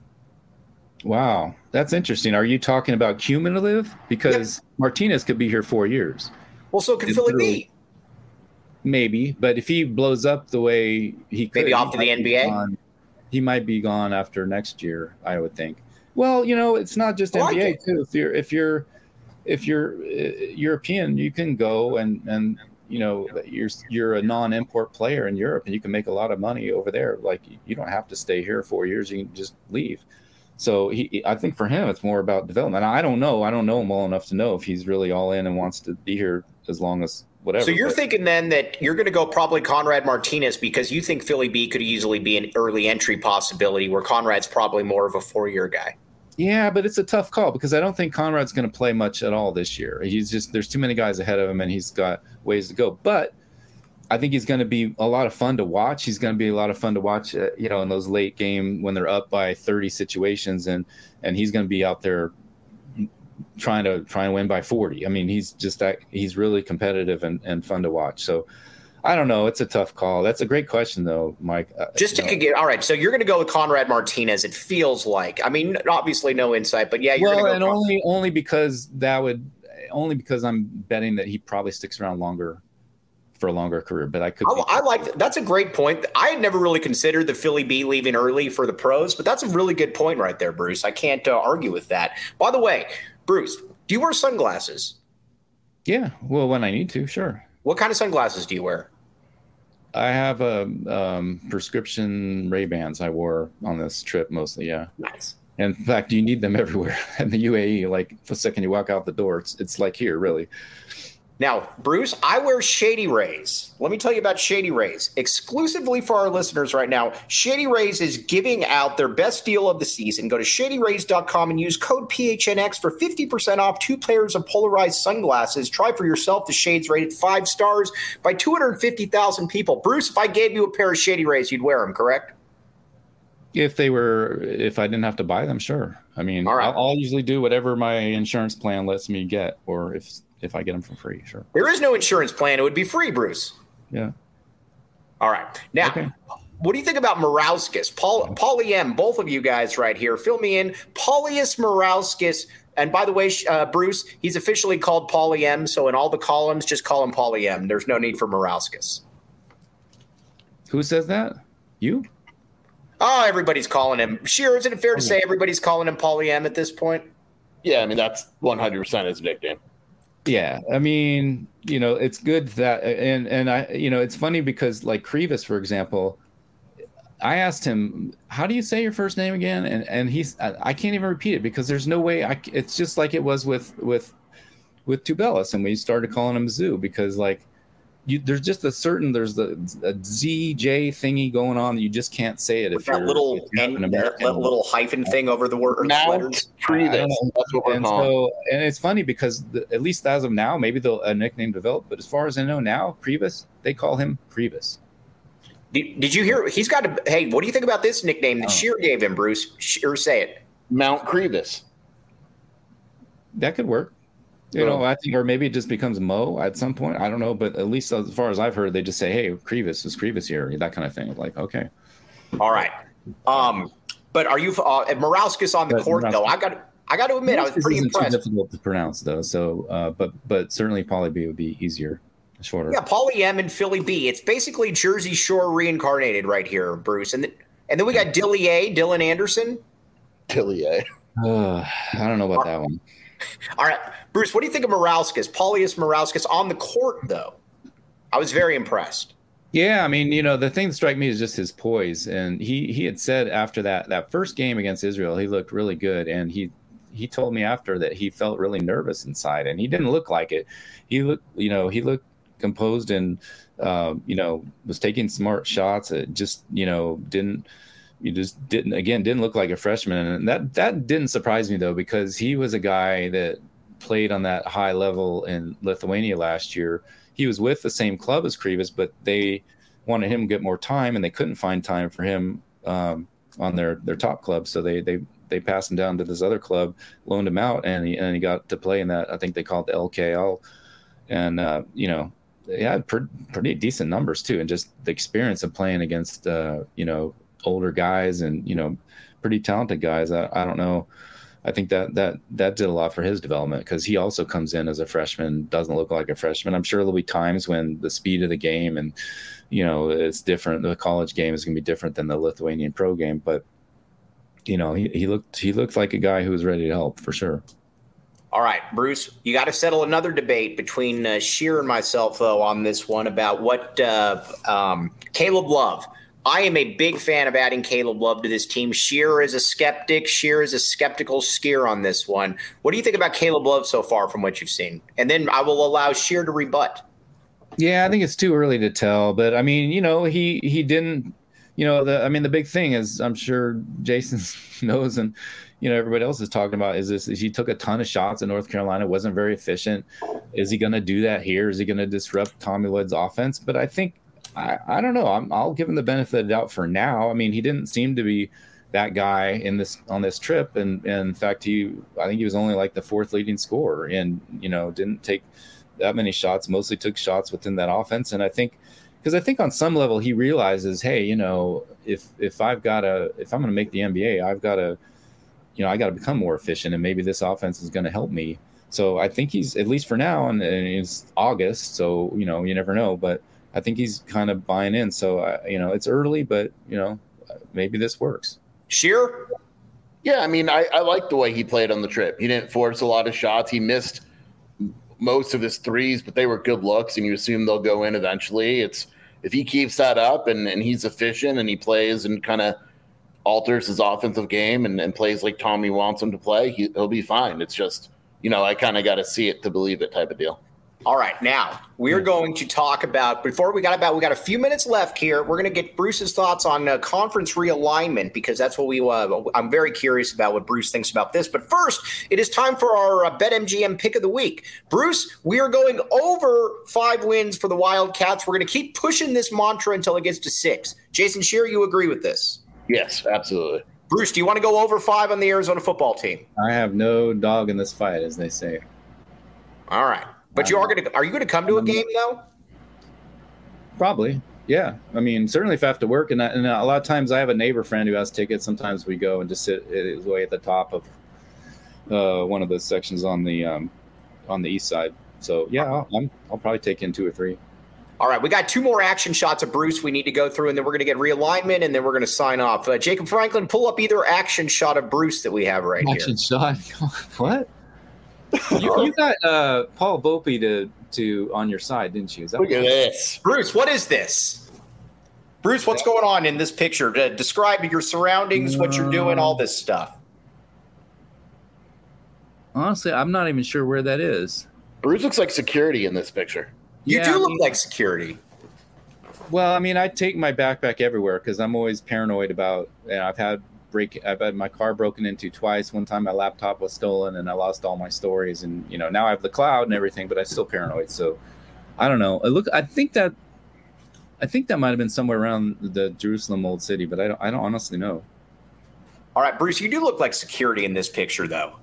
Wow, that's interesting. Are you talking about cumulative? Because yep. Martinez could be here four years. Well, so can Philly B. Maybe, but if he blows up the way he could, maybe off to the N B A, gone, he might be gone after next year, I would think. Well, you know, it's not just I like N B A it. too. If you're if you're if you're uh, European, you can go and and you know you're you're a non-import player in Europe, and you can make a lot of money over there. Like you don't have to stay here four years; you can just leave. So he, I think for him, it's more about development. I don't know. I don't know him well enough to know if he's really all in and wants to be here as long as whatever. So you're but, thinking then that you're going to go probably Conrad Martinez because you think Philly B could easily be an early entry possibility where Conrad's probably more of a four-year guy. Yeah, but it's a tough call because I don't think Conrad's going to play much at all this year. He's just there's too many guys ahead of him, and he's got ways to go. But I think he's going to be a lot of fun to watch. He's going to be a lot of fun to watch, uh, you know, in those late game when they're up by thirty situations, and and he's going to be out there trying to trying to win by forty. I mean, he's just that he's really competitive and, and fun to watch. So I don't know. It's a tough call. That's a great question, though, Mike. Uh, Just to get all right. So you're going to go with Conrad Martinez. It feels like. I mean, obviously no insight, but yeah, you're well, going to and go only only because that would only because I'm betting that he probably sticks around longer for a longer career. But I could. I, I like that. That's a great point. I had never really considered the Philly B leaving early for the pros, but that's a really good point right there, Bruce. I can't uh, argue with that. By the way, Bruce, do you wear sunglasses? Yeah. Well, when I need to, sure. What kind of sunglasses do you wear? I have a um, prescription Ray-Bans I wore on this trip mostly, yeah. Nice. In fact, you need them everywhere in the U A E. Like the second you walk out the door, it's it's like here, really. Now, Bruce, I wear Shady Rays. Let me tell you about Shady Rays. Exclusively for our listeners right now, Shady Rays is giving out their best deal of the season. Go to shady rays dot com and use code P H N X for fifty percent off two pairs of polarized sunglasses. Try for yourself the shades rated five stars by two hundred fifty thousand people. Bruce, if I gave you a pair of Shady Rays, you'd wear them, correct? If they were, if I didn't have to buy them, sure. I mean, All right. I'll, I'll usually do whatever my insurance plan lets me get, or if if I get them for free, sure. There is no insurance plan. It would be free, Bruce. Yeah. All right. Now, Okay. what do you think about Morauskas? Paul, Paulie M, both of you guys right here. Fill me in. Paulius Morauskas. And by the way, uh, Bruce, he's officially called Paulie M. So in all the columns, just call him Paulie M. There's no need for Morauskas. Who says that? You? Oh, everybody's calling him. Sheer, isn't it fair to say everybody's calling him Paulie M at this point? Yeah, I mean, that's one hundred percent his nickname. Yeah, I mean, you know, it's good that, and and I, you know, it's funny because like Krivas, for example, I asked him, "How do you say your first name again?" And and he's, I, I can't even repeat it because there's no way. I, it's just like it was with with with Tubelis, and we started calling him Zoo because like, you there's just a certain there's the a Z J thingy going on that you just can't say it With if that you're little if you're N, an that American. little, little hyphen thing over the word Mount letters. Krivas. I don't know. That's what we're And calling. so, and it's funny because the, at least as of now, maybe they'll a nickname develop. But as far as I know now, Krivas, they call him Krivas. Did, did you hear? He's got a. Hey, what do you think about this nickname that Oh. Sheer gave him, Bruce? Sheer, say it. Mount Krivas. That could work. You know, I think, or maybe it just becomes Mo at some point. I don't know, but at least as far as I've heard, they just say, "Hey, Krivas is Krivas here," that kind of thing. Like, okay, All right. Um, but are you uh, Morauskas on the But court Morauskas- though? I got. I got to admit, I was this pretty isn't too impressed. difficult to pronounce though. So, uh, but but certainly Poly B would be easier, shorter. Yeah, Paulie M and Philly B. It's basically Jersey Shore reincarnated right here, Bruce. And then, and then we got Dilly A, Dylan Anderson. Tillier. Uh, I don't know about that one. All right, Bruce, what do you think of Morauskas? Paulius Morauskas on the court, though. I was very impressed. Yeah, I mean, you know, the thing that struck me is just his poise, and he he had said after that that first game against Israel, he looked really good, and he he told me after that he felt really nervous inside, and he didn't look like it. He looked, you know, he looked composed and uh, you know, was taking smart shots. It just, you know, didn't. You just didn't, again, didn't look like a freshman. And that, that didn't surprise me, though, because he was a guy that played on that high level in Lithuania last year. He was with the same club as Krivas, but they wanted him to get more time, and they couldn't find time for him um, on their, their top club. So they, they, they passed him down to this other club, loaned him out, and he, and he got to play in that. I think they call it the L K L. And, uh, you know, they had pre- pretty decent numbers, too. And just the experience of playing against, uh, you know, older guys and, you know, pretty talented guys. I, I don't know. I think that that that did a lot for his development because he also comes in as a freshman, doesn't look like a freshman. I'm sure there'll be times when the speed of the game and, you know, it's different. The college game is going to be different than the Lithuanian pro game. But you know, he, he looked he looked like a guy who was ready to help for sure. All right, Bruce, you got to settle another debate between uh, Scheer and myself, though, on this one about what uh, um, Caleb Love. I am a big fan of adding Caleb Love to this team. Scheer is a skeptic. Scheer is a skeptical skier on this one. What do you think about Caleb Love so far from what you've seen? And then I will allow Scheer to rebut. Yeah, I think it's too early to tell. But, I mean, you know, he he didn't – you know, the I mean, the big thing is I'm sure Jason knows and – you know, everybody else is talking about is this, is he took a ton of shots in North Carolina, wasn't very efficient. Is he going to do that here? Is he going to disrupt Tommy Lloyd's offense? But I think, I, I don't know. I'm, I'll give him the benefit of the doubt for now. I mean, he didn't seem to be that guy in this, on this trip. And, and in fact, he, I think he was only like the fourth leading scorer and, you know, didn't take that many shots, mostly took shots within that offense. And I think, because I think on some level he realizes, hey, you know, if, if I've got to, if I'm going to make the N B A, I've got to, you know, I got to become more efficient and maybe this offense is going to help me. So I think he's, at least for now, and, and it's August, so, you know, you never know, but I think he's kind of buying in. So, uh, you know, it's early, but, you know, maybe this works. Scheer? Yeah, I mean, I, I like the way he played on the trip. He didn't force a lot of shots. He missed most of his threes, but they were good looks, and you assume they'll go in eventually. It's if he keeps that up and, and he's efficient and he plays and kind of alters his offensive game and, and plays like Tommy wants him to play, he, he'll be fine. It's just, you know, I kind of got to see it to believe it type of deal. All right, now we're going to talk about, before we got about, we got a few minutes left here. We're going to get Bruce's thoughts on uh, conference realignment, because that's what we, uh, I'm very curious about what Bruce thinks about this. But first, it is time for our uh, BetMGM pick of the week. Bruce, we are going over five wins for the Wildcats. We're going to keep pushing this mantra until it gets to six. Jason Scheer, you agree with this? Yes, absolutely. Bruce, do you want to go over five on the Arizona football team? I have no dog in this fight, as they say. All right. But you are going to – are you going to come to a game, though? Probably, yeah. I mean, certainly if I have to work. And, I, and a lot of times I have a neighbor friend who has tickets. Sometimes we go and just sit way at the top of uh, one of the sections on the um, on the east side. So, yeah, I'll, I'm, I'll probably take in two or three. All right, we got two more action shots of Bruce we need to go through, and then we're going to get realignment, and then we're going to sign off. Uh, Jacob Franklin, pull up either action shot of Bruce that we have right action here. Action shot? What? you, you got uh, Paul Volpe to, to on your side, didn't you? Is that Look at this. Bruce, what is this? Bruce, what's going on in this picture? Uh, describe your surroundings, what you're doing, all this stuff. Honestly, I'm not even sure where that is. Bruce looks like security in this picture. You yeah, do I look mean, like security. Well, I mean, I take my backpack everywhere because I'm always paranoid about. You know, I've had break. I've had my car broken into twice. One time, my laptop was stolen, and I lost all my stories. And you know, now I have the cloud and everything, but I'm still paranoid. So, I don't know. I look. I think that. I think that might have been somewhere around the Jerusalem Old City, but I don't. I don't honestly know. All right, Bruce, you do look like security in this picture, though.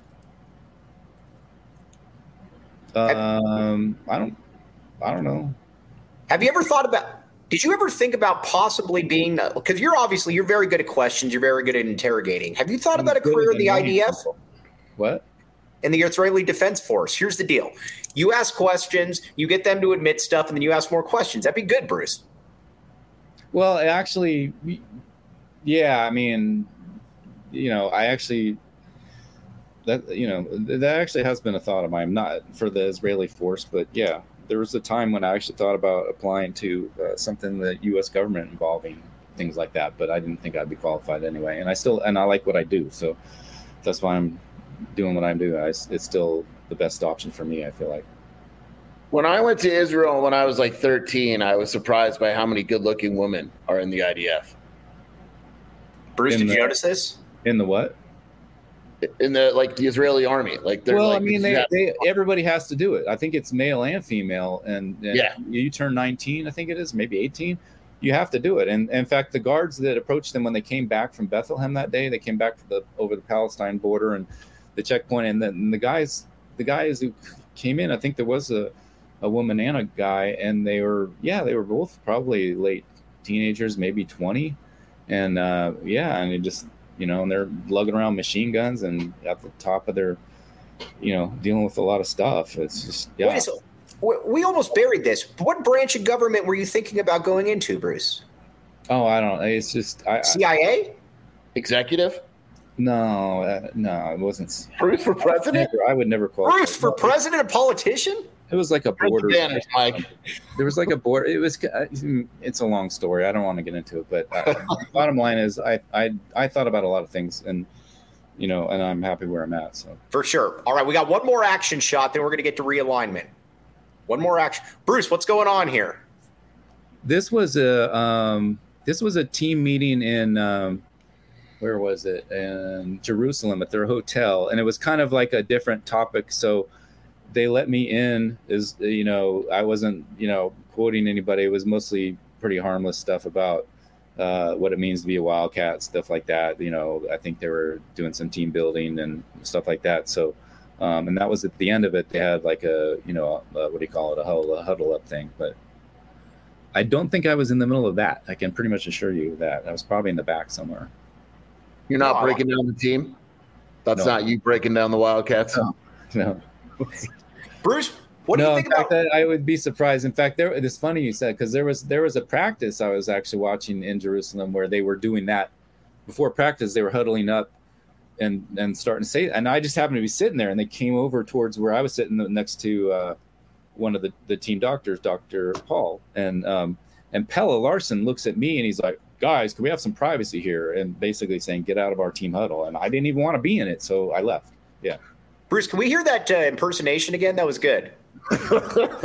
Um, I don't. I don't know. Have you ever thought about, did you ever think about possibly being, because you're obviously, you're very good at questions, you're very good at interrogating. Have you thought I'm about a career in the I D F? People. What? In the Israeli Defense Force. Here's the deal. You ask questions, you get them to admit stuff, and then you ask more questions. That'd be good, Bruce. Well, actually, yeah, I mean, you know, I actually, that, you know, that actually has been a thought of mine, not for the Israeli force, but yeah. There was a time when I actually thought about applying to uh, something the U S government involving things like that, but I didn't think I'd be qualified anyway. And I still, and I like what I do. So that's why I'm doing what I'm doing. I, it's still the best option for me, I feel like. When I went to Israel when I was like thirteen, I was surprised by how many good looking women are in the I D F. Bruce, in did the, you notice this? In the what? In the like the Israeli army, like they're well, like, I mean, they, they everybody has to do it. I think it's male and female, and, and yeah, you turn nineteen, I think it is, maybe eighteen. You have to do it. And, and in fact, the guards that approached them when they came back from Bethlehem that day, they came back to the over the Palestine border and the checkpoint, and, the, and the guys, the guys who came in, I think there was a, a woman and a guy, and they were yeah, they were both probably late teenagers, maybe twenty, and uh, yeah, and it just. You know, and they're lugging around machine guns and at the top of their, you know, dealing with a lot of stuff. It's just, yeah. Wait, so we almost buried this. What branch of government were you thinking about going into, Bruce? Oh, I don't know. It's just I, C I A? Executive? No, uh, no, it wasn't. Bruce for president? Never, I would never call Bruce for president, a politician? It was like a border. Spanish, Mike. There was like a border. It was. It's a long story. I don't want to get into it, but uh, bottom line is, I, I I thought about a lot of things, and you know, and I'm happy where I'm at. So for sure. All right, we got one more action shot, then we're going to get to realignment. One more action, Bruce. What's going on here? This was a um, this was a team meeting in. Um, where was it? In Jerusalem at their hotel. And it was kind of like a different topic. So they let me in as, you know, I wasn't, you know, quoting anybody. It was mostly pretty harmless stuff about uh, what it means to be a Wildcat, stuff like that. You know, I think they were doing some team building and stuff like that. So, um, and that was at the end of it. They had like a, you know, a, what do you call it? A huddle, a huddle up thing. But I don't think I was in the middle of that. I can pretty much assure you that I was probably in the back somewhere. You're not no, breaking down the team? That's no. not you breaking down the Wildcats? No. no. Bruce, what do no, you think in fact, about that I would be surprised. In fact, there it's funny you said, because there was there was a practice I was actually watching in Jerusalem where they were doing that. Before practice, they were huddling up and and starting to say, and I just happened to be sitting there, and they came over towards where I was sitting next to uh, one of the, the team doctors, Doctor Paul, and um, and Pelle Larsson looks at me and he's like, guys, can we have some privacy here? And basically saying, get out of our team huddle. And I didn't even want to be in it, so I left. Yeah. Bruce, can we hear that uh, impersonation again? That was good. Come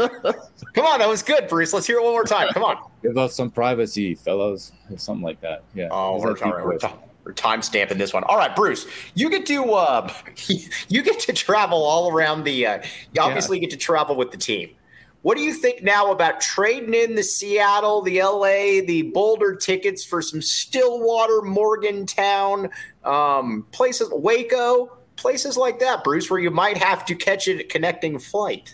on, that was good, Bruce. Let's hear it one more time. Come on. Give us some privacy, fellows. Something like that. Yeah. Oh, we're, we're, we're, t- we're time stamping this one. All right, Bruce, you get to uh, you get to travel all around the. Uh, you obviously yeah. get to travel with the team. What do you think now about trading in the Seattle, the L A, the Boulder tickets for some Stillwater, Morgantown, um, places, Waco, places like that, Bruce, where you might have to catch a connecting flight?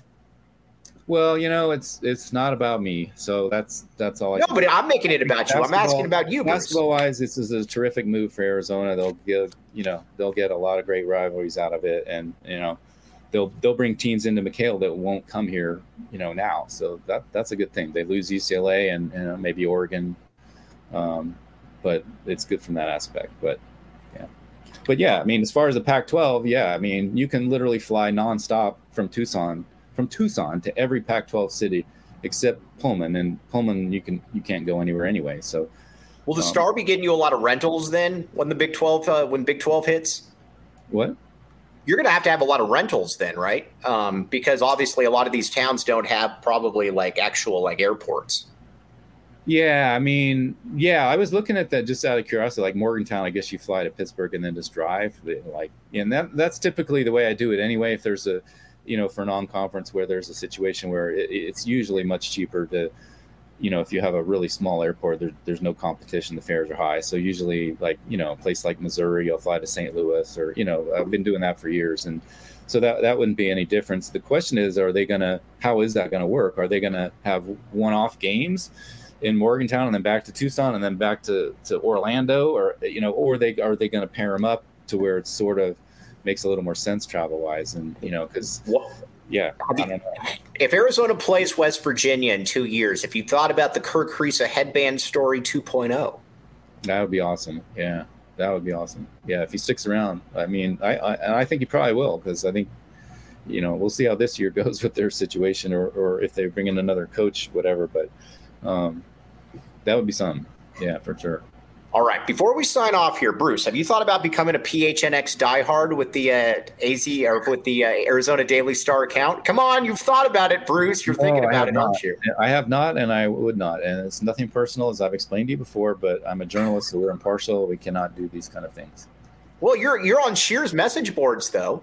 Well, you know, it's it's not about me, so that's that's all. I no, can but say. I'm making it about you. I'm asking about you, Bruce. Basketball-wise, this is a terrific move for Arizona. They'll give, you know, they'll get a lot of great rivalries out of it, and you know. They'll they'll bring teams into McHale that won't come here, you know, now. So that that's a good thing. They lose U C L A and, and maybe Oregon, um, but it's good from that aspect. But yeah, but yeah, I mean, as far as the Pac twelve, yeah, I mean, you can literally fly nonstop from Tucson from Tucson to every Pac twelve city except Pullman, and Pullman you can you can't go anywhere anyway. So will the um, Star be getting you a lot of rentals then when the Big twelve uh, when Big twelve hits? What? You're going to have to have a lot of rentals then, right? Um, because obviously a lot of these towns don't have probably like actual like airports. Yeah, I mean, yeah, I was looking at that just out of curiosity. Like Morgantown, I guess you fly to Pittsburgh and then just drive. Like, and that that's typically the way I do it anyway. If there's a, you know, for non-conference where there's a situation where it, it's usually much cheaper to, you know, if you have a really small airport, there, there's no competition. The fares are high. So usually like, you know, a place like Missouri, I'll fly to Saint Louis or, you know, I've been doing that for years. And so that, that wouldn't be any difference. The question is, are they going to, how is that going to work? Are they going to have one-off games in Morgantown and then back to Tucson and then back to, to Orlando, or, you know, or they, are they going to pair them up to where it sort of makes a little more sense travel wise? And, you know, cause yeah, I don't know. If Arizona plays West Virginia in two years, if you thought about the Kirk Kriisa headband story two point oh, that would be awesome. Yeah, that would be awesome. Yeah, if he sticks around, I mean, I, I and I think he probably will, because I think, you know, we'll see how this year goes with their situation, or or if they bring in another coach, whatever. But um, that would be something. Yeah, for sure. All right. Before we sign off here, Bruce, have you thought about becoming a P H N X diehard with the uh, A Z or with the uh, Arizona Daily Star account? Come on, you've thought about it, Bruce. You're no, thinking about it, not. aren't you? I have not, and I would not. And it's nothing personal, as I've explained to you before. But I'm a journalist, so we're impartial. We cannot do these kind of things. Well, you're you're on Shear's message boards, though.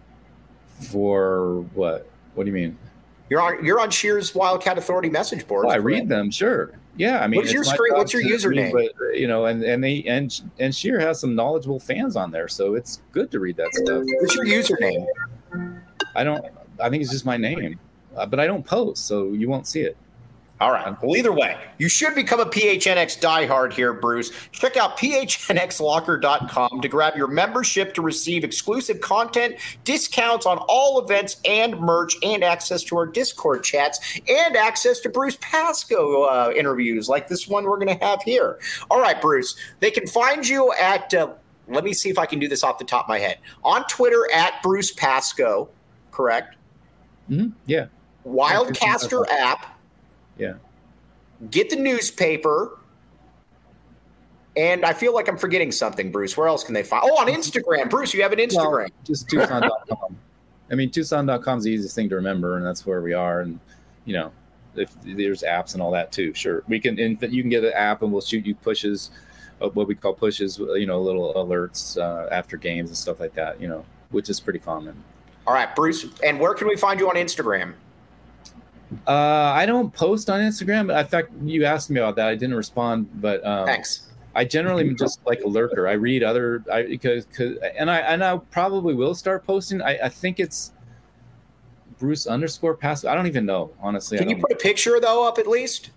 For what? What do you mean? You're on you're on Shear's Wildcat Authority message boards. Oh, I read them, sure. Yeah, I mean, what's your screen, what's your username? Read, but, you know, and and they and and Shear has some knowledgeable fans on there, so it's good to read that stuff. What's your username? I don't. I think it's just my name, uh, but I don't post, so you won't see it. All right. Well, either way, you should become a P H N X diehard here, Bruce. Check out P H N X locker dot com to grab your membership to receive exclusive content, discounts on all events and merch, and access to our Discord chats, and access to Bruce Pascoe uh, interviews like this one we're going to have here. All right, Bruce. They can find you at uh, let me see if I can do this off the top of my head. On Twitter, at Bruce Pascoe, correct? Mm-hmm. Yeah. Wildcaster app. Yeah. Get the newspaper. And I feel like I'm forgetting something, Bruce. Where else can they find? Oh, on Instagram. Bruce, you have an Instagram. Well, just Tucson dot com. I mean, Tucson dot com is the easiest thing to remember, and that's where we are. And, you know, if there's apps and all that too, sure. We can, and you can get an app and we'll shoot you pushes, uh, what we call pushes, you know, little alerts uh, after games and stuff like that, you know, which is pretty common. All right, Bruce. And where can we find you on Instagram? Uh, I don't post on Instagram. In fact, you asked me about that. I didn't respond, but um, Thanks. I generally am just like a lurker. I read other, I because, cause, and I and I probably will start posting. I, I think it's Bruce underscore Pascoe. I don't even know, honestly. Can you put a picture though up at least?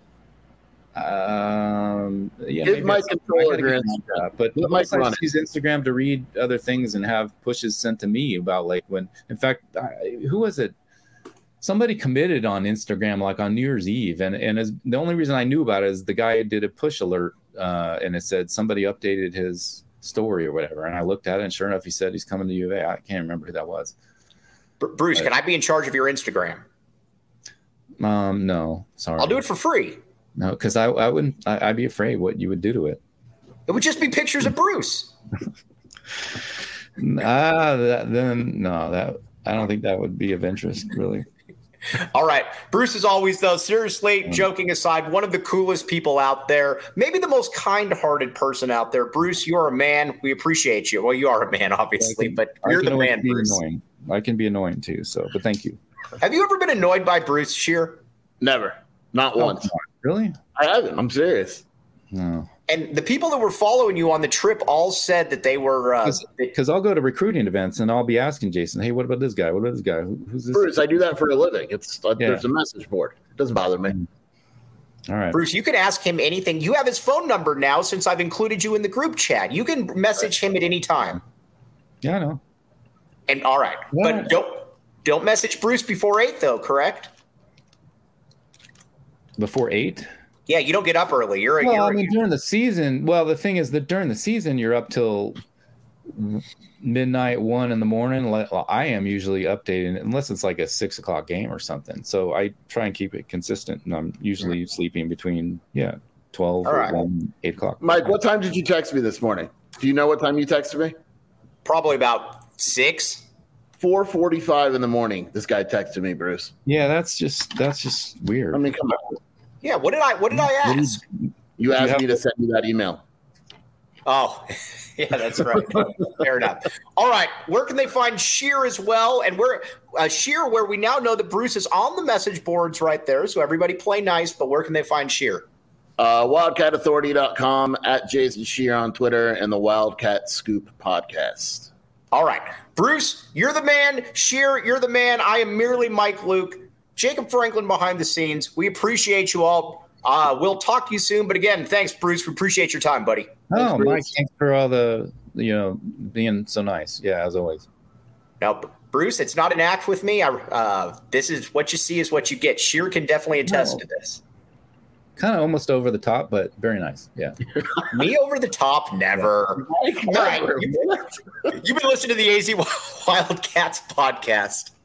Um, yeah, Give my controller your Instagram, but most I use Instagram to read other things and have pushes sent to me about like when. In fact, I, who was it? Somebody committed on Instagram like on New Year's Eve, and and as, the only reason I knew about it is the guy did a push alert, uh, and it said somebody updated his story or whatever, and I looked at it, and sure enough, he said he's coming to U of A. I can't remember who that was. Bruce, but, can I be in charge of your Instagram? Um, no, sorry. I'll do it for free. No, because I I wouldn't. I, I'd be afraid what you would do to it. It would just be pictures of Bruce. Ah, that, then no, that I don't think that would be of interest, really. All right. Bruce, as always, though, seriously, joking aside, one of the coolest people out there, maybe the most kind-hearted person out there. Bruce, you're a man. We appreciate you. Well, you are a man, obviously, can, but you're the man, Bruce. Annoying. I can be annoying, too, so, but thank you. Have you ever been annoyed by Bruce Shear? Never. Not oh, once. Really? I haven't. I'm serious. No. And the people that were following you on the trip all said that they were because uh, I'll go to recruiting events and I'll be asking Jason, "Hey, what about this guy? What about this guy? Who, who's this?" Bruce, I do that for a living. It's uh, yeah. There's a message board. It doesn't bother me. All right, Bruce, you can ask him anything. You have his phone number now since I've included you in the group chat. You can message him at any time. Yeah, I know. And all right, yeah. But don't don't message Bruce before eight, though. Correct? Before eight. Yeah, you don't get up early. You're a well, you're I mean, during the season. Well, the thing is that during the season, you're up till midnight, one in the morning. Well, I am usually updating unless it's like a six o'clock game or something. So I try and keep it consistent, and I'm usually right. sleeping between yeah twelve All or right. one, eight o'clock. Mike, what time did you text me this morning? Do you know what time you texted me? Probably about six. four forty-five in the morning. This guy texted me, Bruce. Yeah, that's just that's just weird. I mean, come on. Yeah, what did I what did I ask? You asked you me to send you that email. Oh, yeah, that's right. Fair enough. All right, where can they find Shear as well? And where uh, Shear, where we now know that Bruce is on the message boards right there. So everybody play nice, but where can they find Shear? Uh, wildcat authority dot com, at Jason Shear on Twitter, and the Wildcat Scoop podcast. All right, Bruce, you're the man. Shear, you're the man. I am merely Mike Luke. Jacob Franklin behind the scenes. We appreciate you all. Uh, we'll talk to you soon. But again, thanks, Bruce. We appreciate your time, buddy. Oh, thanks, Mike, thanks for all the, you know, being so nice. Yeah, as always. Now, Bruce, it's not an act with me. I, uh, this is what you see is what you get. Shear can definitely attest no. to this. Kind of almost over the top, but very nice. Yeah. Me over the top? Never. Yeah. All right. You've, you've been listening to the A Z Wildcats podcast.